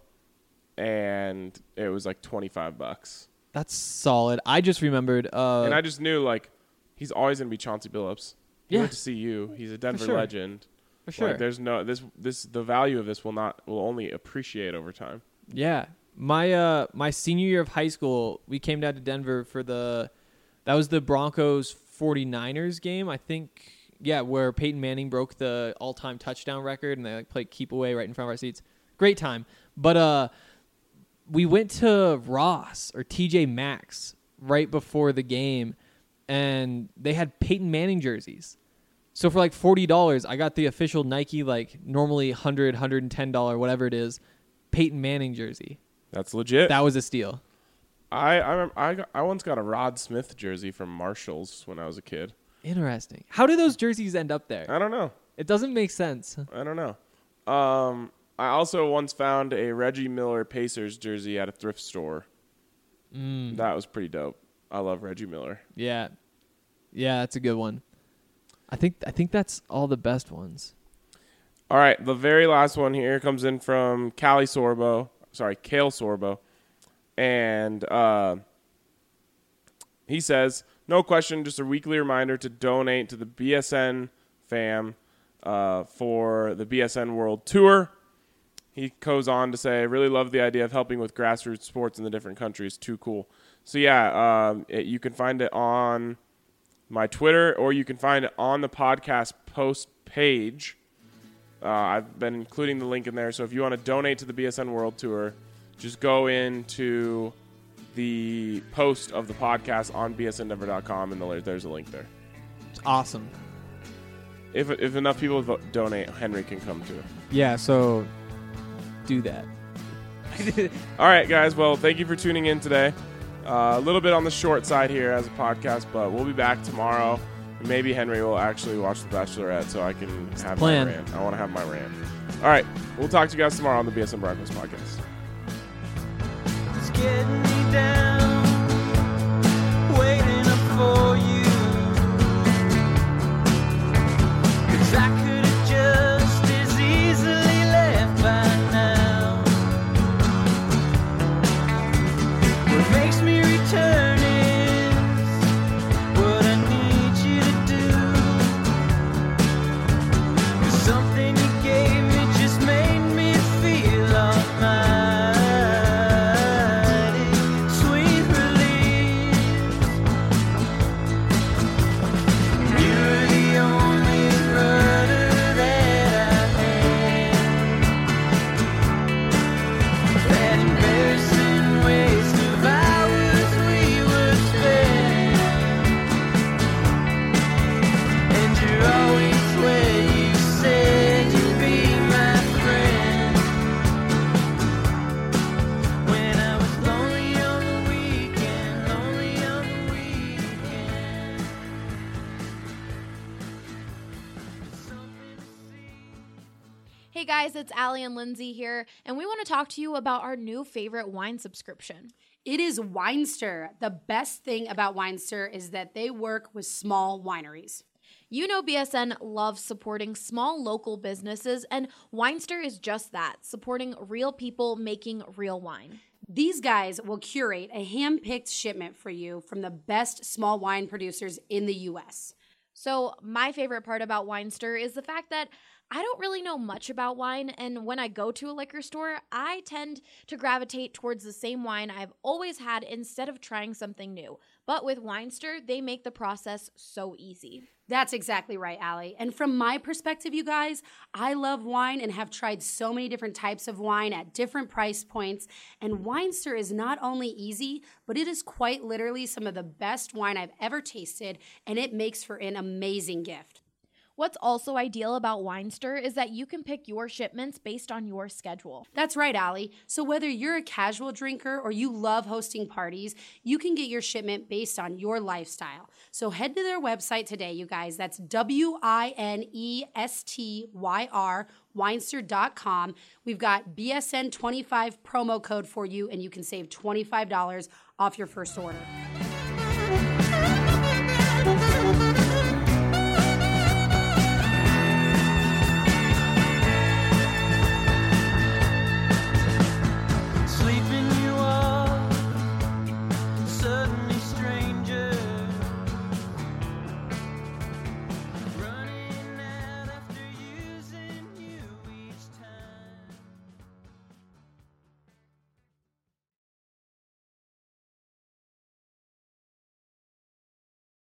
and it was like $25.
That's solid. I just remembered.
And I just knew like he's always gonna be Chauncey Billups. He went to CU. He's a Denver legend.
For sure.
Like, there's no the value of this will only appreciate over time.
Yeah. My senior year of high school, we came down to Denver for that was the Broncos 49ers game, I think. Yeah, where Peyton Manning broke the all-time touchdown record and they like played keep away right in front of our seats. Great time. But we went to Ross or TJ Maxx right before the game and they had Peyton Manning jerseys. So for like $40, I got the official Nike, like normally $100, $110, whatever it is, Peyton Manning jersey.
That's legit.
That was a steal.
I once got a Rod Smith jersey from Marshalls when I was a kid.
Interesting. How do those jerseys end up there?
I don't know.
It doesn't make sense.
I don't know. I also once found a Reggie Miller Pacers jersey at a thrift store. That was pretty dope. I love Reggie Miller.
Yeah. Yeah, that's a good one. I think that's all the best ones.
All right, the very last one here comes in from Kale Sorbo. And he says, no question, just a weekly reminder to donate to the BSN fam for the BSN World Tour. He goes on to say, I really love the idea of helping with grassroots sports in the different countries. Too cool. So, you can find it on my Twitter, or you can find it on the podcast post page. I've been including the link in there. So if you want to donate to the BSN World Tour, just go into the post of the podcast on bsndenver.com, and there's a link there.
It's awesome.
If enough people donate, Henry can come too.
Yeah, so do that.
All right, guys. Well, thank you for tuning in today. A little bit on the short side here as a podcast, but we'll be back tomorrow. Maybe Henry will actually watch The Bachelorette so I can have my rant. I want to have my rant. All right. We'll talk to you guys tomorrow on the BSN Broncos podcast.
It's getting me down, waiting up for you. 'Cause I could have just as easily left by now. What makes me return is what I need you to do. 'Cause something you gave me just made me feel almighty. Sweet release. You're the only rudder that I had. That embarrassing waste of hours we were spent. And you're always where you said you'd be my friend. When I was lonely on the weekend,
Hey guys, it's Allie and Lindsay here, and we want to talk to you about our new favorite wine subscription.
It is Winester. The best thing about Winester is that they work with small wineries.
You know BSN loves supporting small local businesses, and Winester is just that, supporting real people making real wine.
These guys will curate a hand-picked shipment for you from the best small wine producers in the U.S.
So my favorite part about Winester is the fact that I don't really know much about wine, and when I go to a liquor store, I tend to gravitate towards the same wine I've always had instead of trying something new. But with Winester, they make the process so easy.
That's exactly right, Allie. And from my perspective, you guys, I love wine and have tried so many different types of wine at different price points. And Winester is not only easy, but it is quite literally some of the best wine I've ever tasted, and it makes for an amazing gift.
What's also ideal about Winester is that you can pick your shipments based on your schedule.
That's right, Allie. So whether you're a casual drinker or you love hosting parties, you can get your shipment based on your lifestyle. So head to their website today, you guys. That's WINESTYR, Winester.com. We've got BSN25 promo code for you, and you can save $25 off your first order.